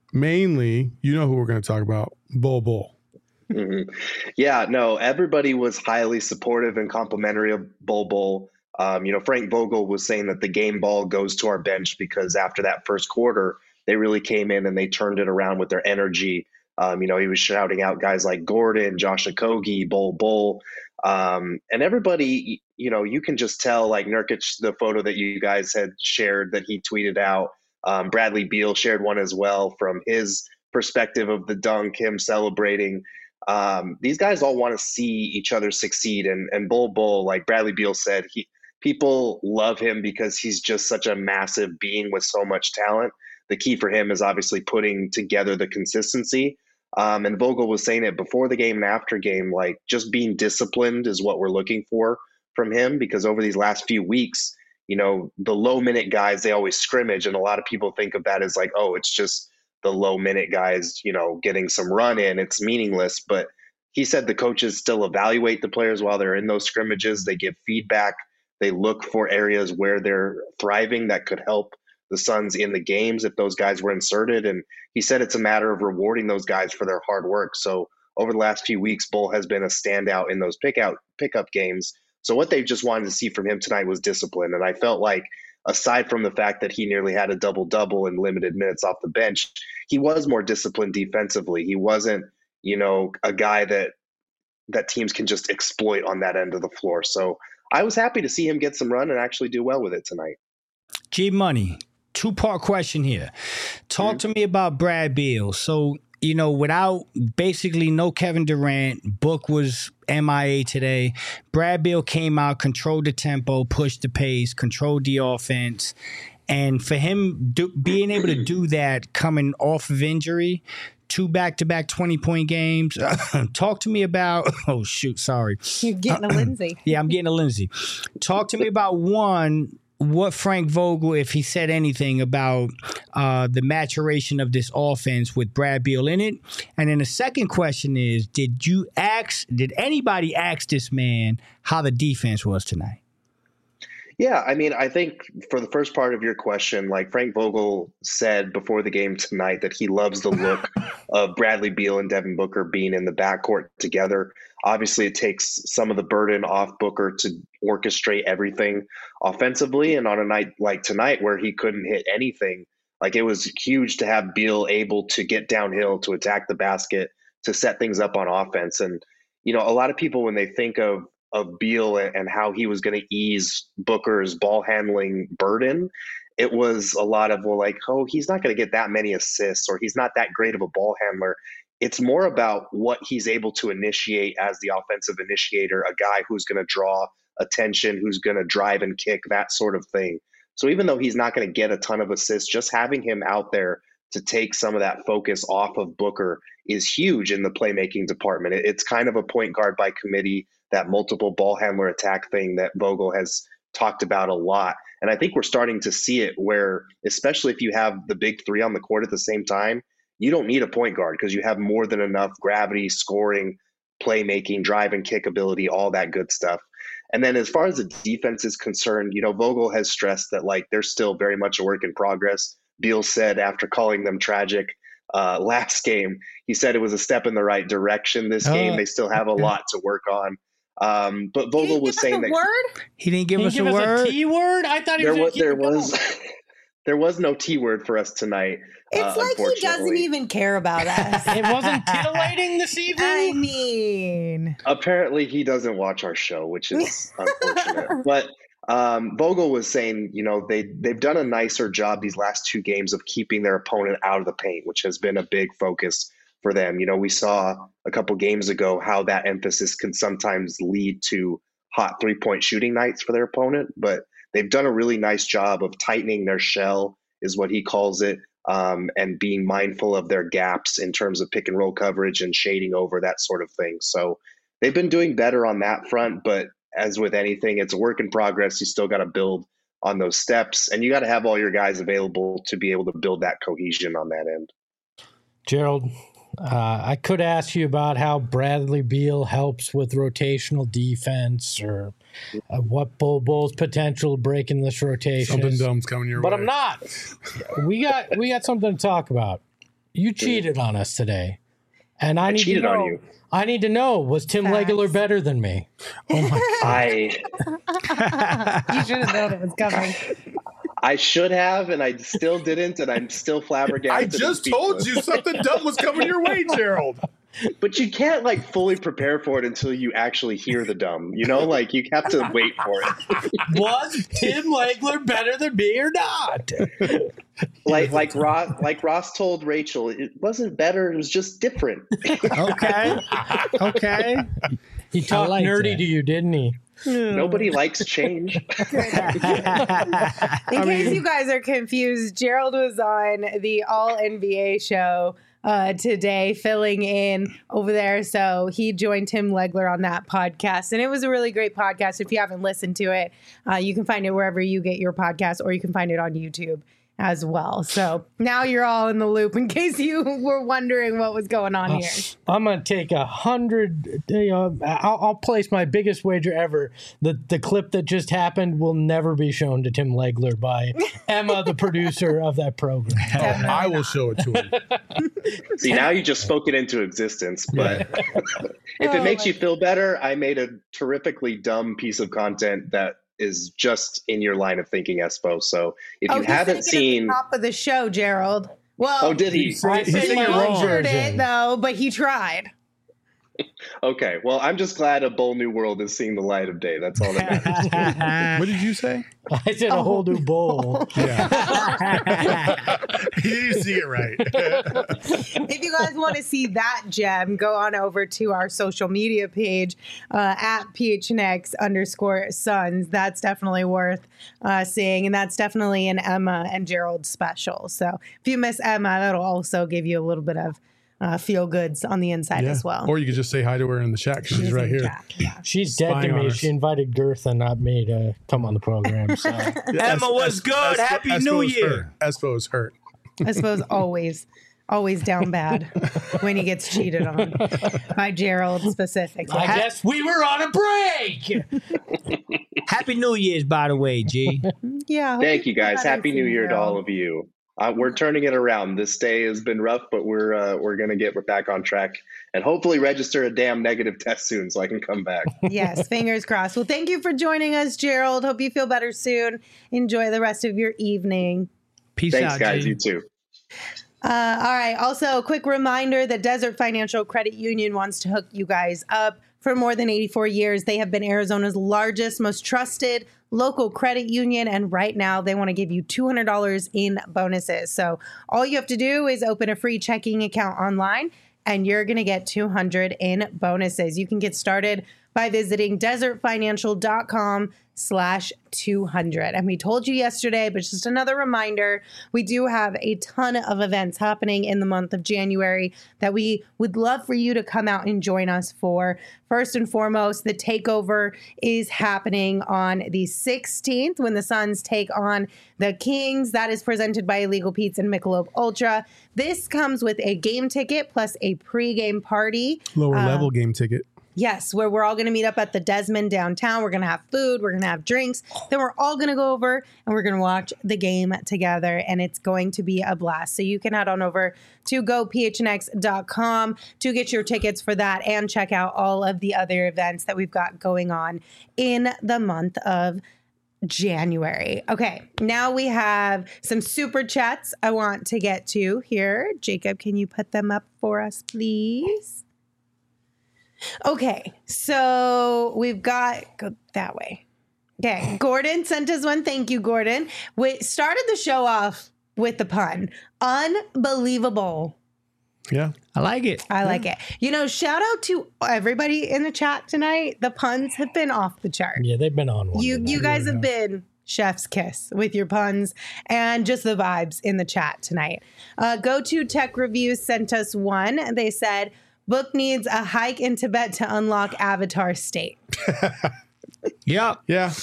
who we're going to talk about, Bol. Mm-hmm. Yeah, no, everybody was highly supportive and complimentary of Bol. Frank Vogel was saying that the game ball goes to our bench because after that first quarter, they really came in and they turned it around with their energy. He was shouting out guys like Gordon, Josh Okogie, Bol. And everybody, you can just tell, like Nurkic, the photo that you guys had shared that he tweeted out. Bradley Beal shared one as well from his perspective of the dunk, him celebrating. These guys all want to see each other succeed. And Bol, like Bradley Beal said, people love him because he's just such a massive being with so much talent. The key for him is obviously putting together the consistency. And Vogel was saying it before the game and after game, like just being disciplined is what we're looking for from him, because over these last few weeks, the low minute guys, they always scrimmage. And a lot of people think of that as like, oh, it's just the low minute guys, getting some run in, it's meaningless. But he said the coaches still evaluate the players while they're in those scrimmages. They give feedback. They look for areas where they're thriving that could help the Suns in the games if those guys were inserted. And he said it's a matter of rewarding those guys for their hard work. So over the last few weeks, Bol has been a standout in those pickup games. So what they just wanted to see from him tonight was discipline. And I felt like, aside from the fact that he nearly had a double-double in limited minutes off the bench, he was more disciplined defensively. He wasn't, a guy that teams can just exploit on that end of the floor. So I was happy to see him get some run and actually do well with it tonight. G Money, 2-part question here. Talk to me about Brad Beal. So, without basically no Kevin Durant, Book was MIA today. Brad Beal came out, controlled the tempo, pushed the pace, controlled the offense. And for him being able to do that coming off of injury, 2 back-to-back 20-point games. Talk to me about – oh, shoot, sorry. You're getting a Lindsay. Yeah, I'm getting a Lindsay. Talk to me about, one, what Frank Vogel, if he said anything about the maturation of this offense with Brad Beal in it. And then the second question is, did anybody ask this man how the defense was tonight? Yeah, I mean, I think for the first part of your question, like Frank Vogel said before the game tonight that he loves the look of Bradley Beal and Devin Booker being in the backcourt together. Obviously, it takes some of the burden off Booker to orchestrate everything offensively. And on a night like tonight where he couldn't hit anything, like it was huge to have Beal able to get downhill, to attack the basket, to set things up on offense. And, you know, a lot of people, when they think of Beal and how he was going to ease Booker's ball handling burden, it was a lot of, well, like, oh, he's not going to get that many assists, or he's not that great of a ball handler. It's more about what he's able to initiate as the offensive initiator, a guy who's going to draw attention, who's going to drive and kick, that sort of thing. So even though he's not going to get a ton of assists, just having him out there to take some of that focus off of Booker is huge in the playmaking department. It's kind of a point guard by committee, that multiple ball handler attack thing that Vogel has talked about a lot. And I think we're starting to see it where, especially if you have the big three on the court at the same time, you don't need a point guard because you have more than enough gravity, scoring, playmaking, drive and kick ability, all that good stuff. And then as far as the defense is concerned, you know, Vogel has stressed that like they're still very much a work in progress. Beal said after calling them tragic last game, he said it was a step in the right direction this game. They still have a lot to work on. But Vogel was saying that he didn't give us a word. A T word? I thought he was there was no T word for us tonight. It's like he doesn't even care about us. It wasn't titillating this evening? I mean, apparently he doesn't watch our show, which is unfortunate. But Vogel was saying, you know, they've done a nicer job these last two games of keeping their opponent out of the paint, which has been a big focus for them. You know, we saw a couple games ago how that emphasis can sometimes lead to hot three-point shooting nights for their opponent, but they've done a really nice job of tightening their shell, is what he calls it, and being mindful of their gaps in terms of pick and roll coverage and shading over, that sort of thing. So they've been doing better on that front, but as with anything, it's a work in progress. You still got to build on those steps, and you got to have all your guys available to be able to build that cohesion on that end. Gerald, I could ask you about how Bradley Beal helps with rotational defense, or what Bol's potential breaking this rotation. Something dumb's coming your way. But I'm not. We got something to talk about. You cheated on us today, and I need to know. On you. I need to know, was Tim Legler better than me? Oh my God. You should have known it was coming. I should have, and I still didn't, and I'm still flabbergasted. I just told you something dumb was coming your way, Gerald. But you can't like fully prepare for it until you actually hear the dumb. You know, like you have to wait for it. Was Tim Legler better than me or not? Like Ross told Rachel, it wasn't better. It was just different. Okay. He talked nerdy to you, didn't he? Nobody likes change. In case you guys are confused, Gerald was on the All NBA show today, filling in over there. So he joined Tim Legler on that podcast, and it was a really great podcast. If you haven't listened to it, you can find it wherever you get your podcast, or you can find it on YouTube as well. So now you're all in the loop in case you were wondering what was going on here. I'm going to take 100, I'll place my biggest wager ever. The clip that just happened will never be shown to Tim Legler by Emma, the producer of that program. I will show it to him. See, now you just spoke it into existence. But if it makes you feel better, I made a terrifically dumb piece of content that is just in your line of thinking, Espo. So if you haven't seen at the top of the show, Gerald. Well, did he? He butchered it though, but he tried. Okay, well, I'm just glad a bold new world is seeing the light of day. That's all that matters. What did you say? I said a whole new bowl. Yeah. You didn't see it right. If you guys want to see that gem, go on over to our social media page at PHNX_Suns. That's definitely worth seeing, and that's definitely an Emma and Gerald special. So if you miss Emma, that'll also give you a little bit of feel goods on the inside as well. Or you could just say hi to her in the chat because she's right here. Yeah. She's dead to me. She invited Gertha, not me, to come on the program. So. Emma was good. Happy New Year. Espo is hurt. I suppose always always down bad when he gets cheated on by Gerald specifically. I guess we were on a break. Happy New Year's, by the way, G. Yeah. Thank you guys. better Happy New soon, Year to Gerald. all of you. We're turning it around. This day has been rough, but we're gonna get back on track and hopefully register a damn negative test soon so I can come back. Yes, fingers crossed. Well, thank you for joining us, Gerald. Hope you feel better soon. Enjoy the rest of your evening. Peace Thanks, out, guys. G. You too. All right. Also, a quick reminder that Desert Financial Credit Union wants to hook you guys up. For more than 84 years, they have been Arizona's largest, most trusted local credit union. And right now, they want to give you $200 in bonuses. So all you have to do is open a free checking account online, and you're going to get $200 in bonuses. You can get started by visiting desertfinancial.com/200. And we told you yesterday, but just another reminder, we do have a ton of events happening in the month of January that we would love for you to come out and join us for. First and foremost, the takeover is happening on the 16th when the Suns take on the Kings. That is presented by Illegal Pete's and Michelob Ultra. This comes with a game ticket plus a pregame party. Lower level game ticket. Yes, where we're all going to meet up at the Desmond downtown. We're going to have food. We're going to have drinks. Then we're all going to go over and we're going to watch the game together. And it's going to be a blast. So you can head on over to gophnx.com to get your tickets for that and check out all of the other events that we've got going on in the month of January. Okay, now we have some super chats I want to get to here. Jacob, can you put them up for us, please? Okay, so we've got, go that way. Okay, Gordon sent us one. Thank you, Gordon. We started the show off with the pun. Unbelievable. Yeah. I like it. I like it. You know, shout out to everybody in the chat tonight. The puns have been off the chart. Yeah, they've been on one. You guys have been chef's kiss with your puns and just the vibes in the chat tonight. Go to Tech Reviews sent us one. They said, Book needs a hike in Tibet to unlock Avatar State. Yep. Yeah.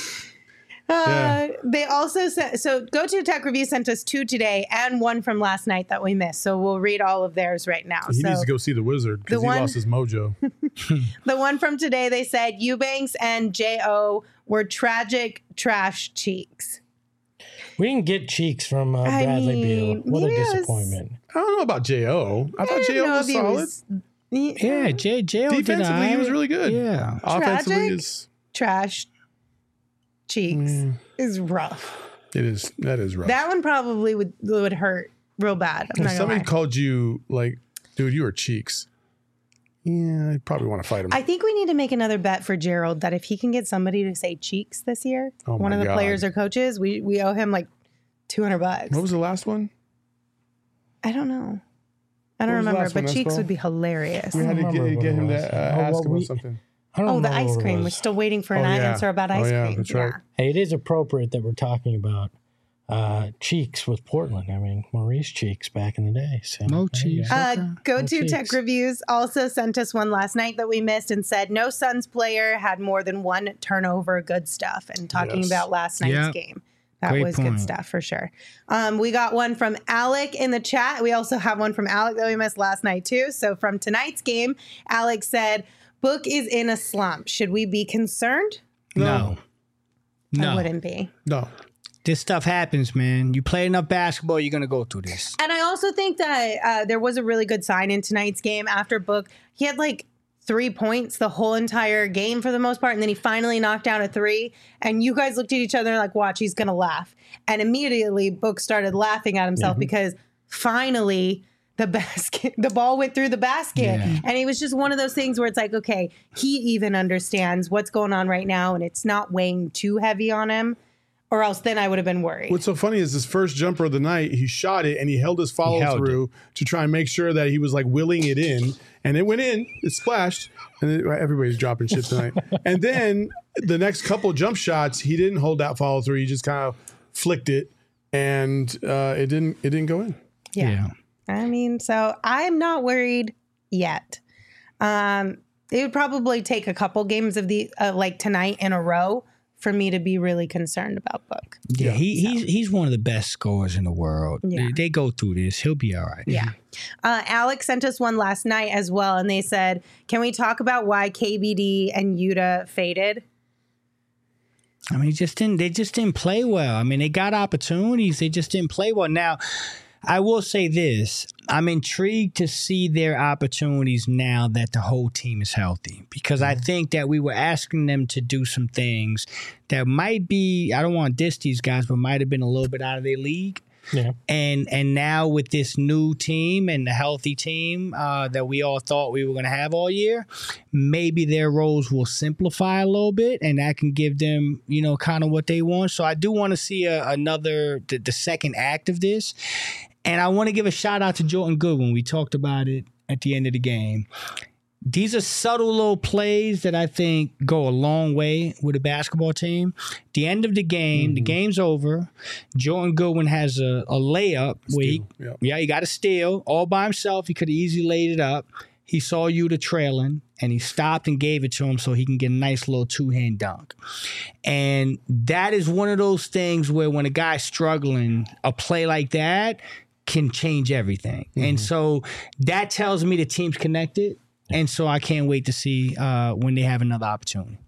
They also said, so Go to Tech Review sent us two today and one from last night that we missed. So we'll read all of theirs right now. He needs to go see the wizard because he lost his mojo. The one from today, they said Eubanks and J.O. were tragic trash cheeks. We didn't get cheeks from Bradley Beal. What a disappointment. I don't know about J.O. I thought J.O. was solid. Yeah, J.O. Defensively, he was really good. Yeah. Offensively is trash cheeks is rough. It is. That is rough. That one probably would hurt real bad. I'm not If gonna somebody lie. called you like, dude, you were cheeks. Yeah, I probably want to fight him. I think we need to make another bet for Gerald that if he can get somebody to say cheeks this year, Oh one my of the God. players or coaches, we owe him like $200. What was the last one? I don't know. I don't What was the remember, last one, but cheeks Espo? would be hilarious. We had to remember get him what to it was. ask him about something. I don't Oh, the remember ice what it cream. We're was. still waiting for an Oh, yeah. answer about Oh, ice yeah, cream. that's right. Hey, it is appropriate that we're talking about cheeks with Portland. I mean, Maurice Cheeks back in the day. So Mo there you Cheeks. go. Go to cheeks. Tech Reviews also sent us one last night that we missed and said no Suns player had more than one turnover. Good stuff. And talking Yes. about last night's Yeah. game. That Great was good point. stuff for sure. We got one from Alec in the chat. We also have one from Alec that we missed last night too. So from tonight's game, Alec said, Book is in a slump. Should we be concerned? No. I wouldn't be. No. This stuff happens, man. You play enough basketball, you're going to go through this. And I also think that there was a really good sign in tonight's game after Book. He had like 3 points the whole entire game for the most part. And then he finally knocked down a three. And you guys looked at each other like, watch, he's going to laugh. And immediately Book started laughing at himself because finally the ball went through the basket. Yeah. And it was just one of those things where it's like, okay, he even understands what's going on right now. And it's not weighing too heavy on him. Or else then I would have been worried. What's so funny is his first jumper of the night, he shot it and he held his follow through to try and make sure that he was like willing it in. And it went in, it splashed, and everybody's dropping shit tonight. And then the next couple jump shots, he didn't hold that follow through. He just kind of flicked it, and it didn't go in. Yeah. I mean, so I'm not worried yet. It would probably take a couple games of the like tonight in a row for me to be really concerned about Book. Yeah, he's one of the best scorers in the world. Yeah. They go through this. He'll be all right. Yeah. Alex sent us one last night as well, and they said, can we talk about why KBD and Yuta faded? I mean, they just didn't play well. I mean, they got opportunities. They just didn't play well. Now, I will say this. I'm intrigued to see their opportunities now that the whole team is healthy, because I think that we were asking them to do some things that might be, I don't want to diss these guys, but might have been a little bit out of their league. Yeah. And now with this new team and the healthy team that we all thought we were going to have all year, maybe their roles will simplify a little bit, and that can give them, kind of what they want. So I do want to see the second act of this. And I want to give a shout out to Jordan Goodwin. We talked about it at the end of the game. These are subtle little plays that I think go a long way with a basketball team. The end of the game, the game's over. Jordan Goodwin has a layup where he got a steal all by himself. He could have easily laid it up. He saw Yuta trailing, and he stopped and gave it to him so he can get a nice little two-hand dunk. And that is one of those things where when a guy's struggling, a play like that can change everything. And so that tells me the team's connected. And so I can't wait to see when they have another opportunity.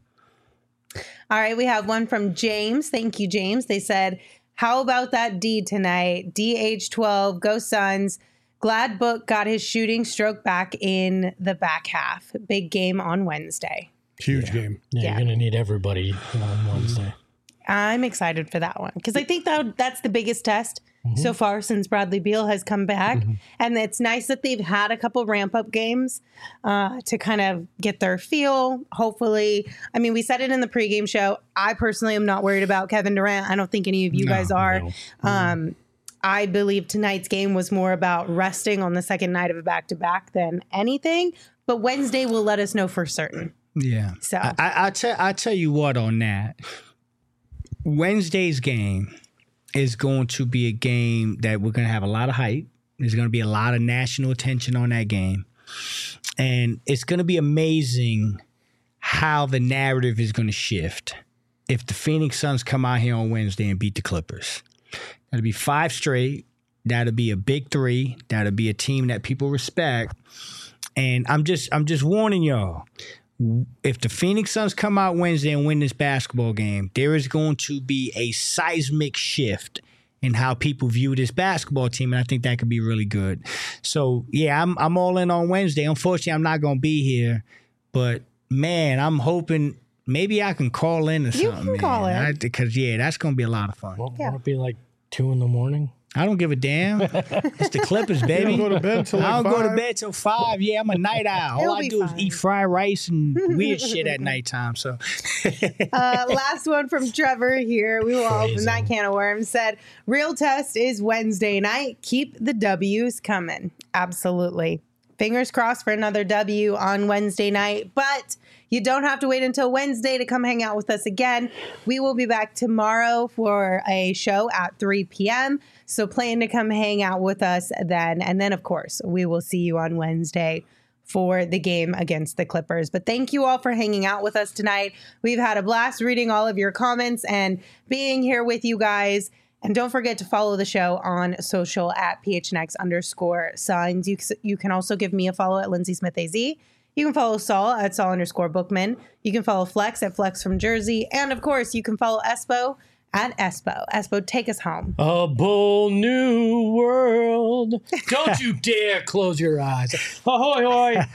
All right, we have one from James. Thank you, James. They said, how about that D tonight? DH12, go Suns. Glad Book got his shooting stroke back in the back half. Big game on Wednesday. Huge game. Yeah, you're going to need everybody on Wednesday. I'm excited for that one because I think that's the biggest test so far since Bradley Beal has come back. And it's nice that they've had a couple ramp-up games to kind of get their feel, hopefully. I mean, we said it in the pregame show. I personally am not worried about Kevin Durant. I don't think any of you guys are. No. I believe tonight's game was more about resting on the second night of a back-to-back than anything. But Wednesday will let us know for certain. Yeah. So I tell you what on that. Wednesday's game is going to be a game that we're going to have a lot of hype. There's going to be a lot of national attention on that game. And it's going to be amazing how the narrative is going to shift if the Phoenix Suns come out here on Wednesday and beat the Clippers. That'll be 5 straight. That'll be a big 3. That'll be a team that people respect. And I'm just warning y'all. If the Phoenix Suns come out Wednesday and win this basketball game, there is going to be a seismic shift in how people view this basketball team, and I think that could be really good. So, yeah, I'm all in on Wednesday. Unfortunately, I'm not going to be here, but, man, I'm hoping maybe I can call in or something. You can call in. Because, that's going to be a lot of fun. Won't it be like 2 in? I don't give a damn. It's the Clippers, baby. You don't go to bed till I don't 5? go to bed till 5. Yeah, I'm a night owl. All I do is eat fried rice and weird shit at nighttime. So, last one from Trevor here. We will open that can of worms. Said, real test is Wednesday night. Keep the W's coming. Absolutely. Fingers crossed for another W on Wednesday night, but you don't have to wait until Wednesday to come hang out with us again. We will be back tomorrow for a show at 3 p.m., so plan to come hang out with us then. And then, of course, we will see you on Wednesday for the game against the Clippers. But thank you all for hanging out with us tonight. We've had a blast reading all of your comments and being here with you guys. And don't forget to follow the show on social at PHNX_Suns. You can also give me a follow at Lindsay Smith AZ. You can follow Saul at Saul_Bookman. You can follow Flex at Flex from Jersey. And of course, you can follow Espo at Espo. Espo, take us home. A bold new world. Don't you dare close your eyes. Ahoy, hoy.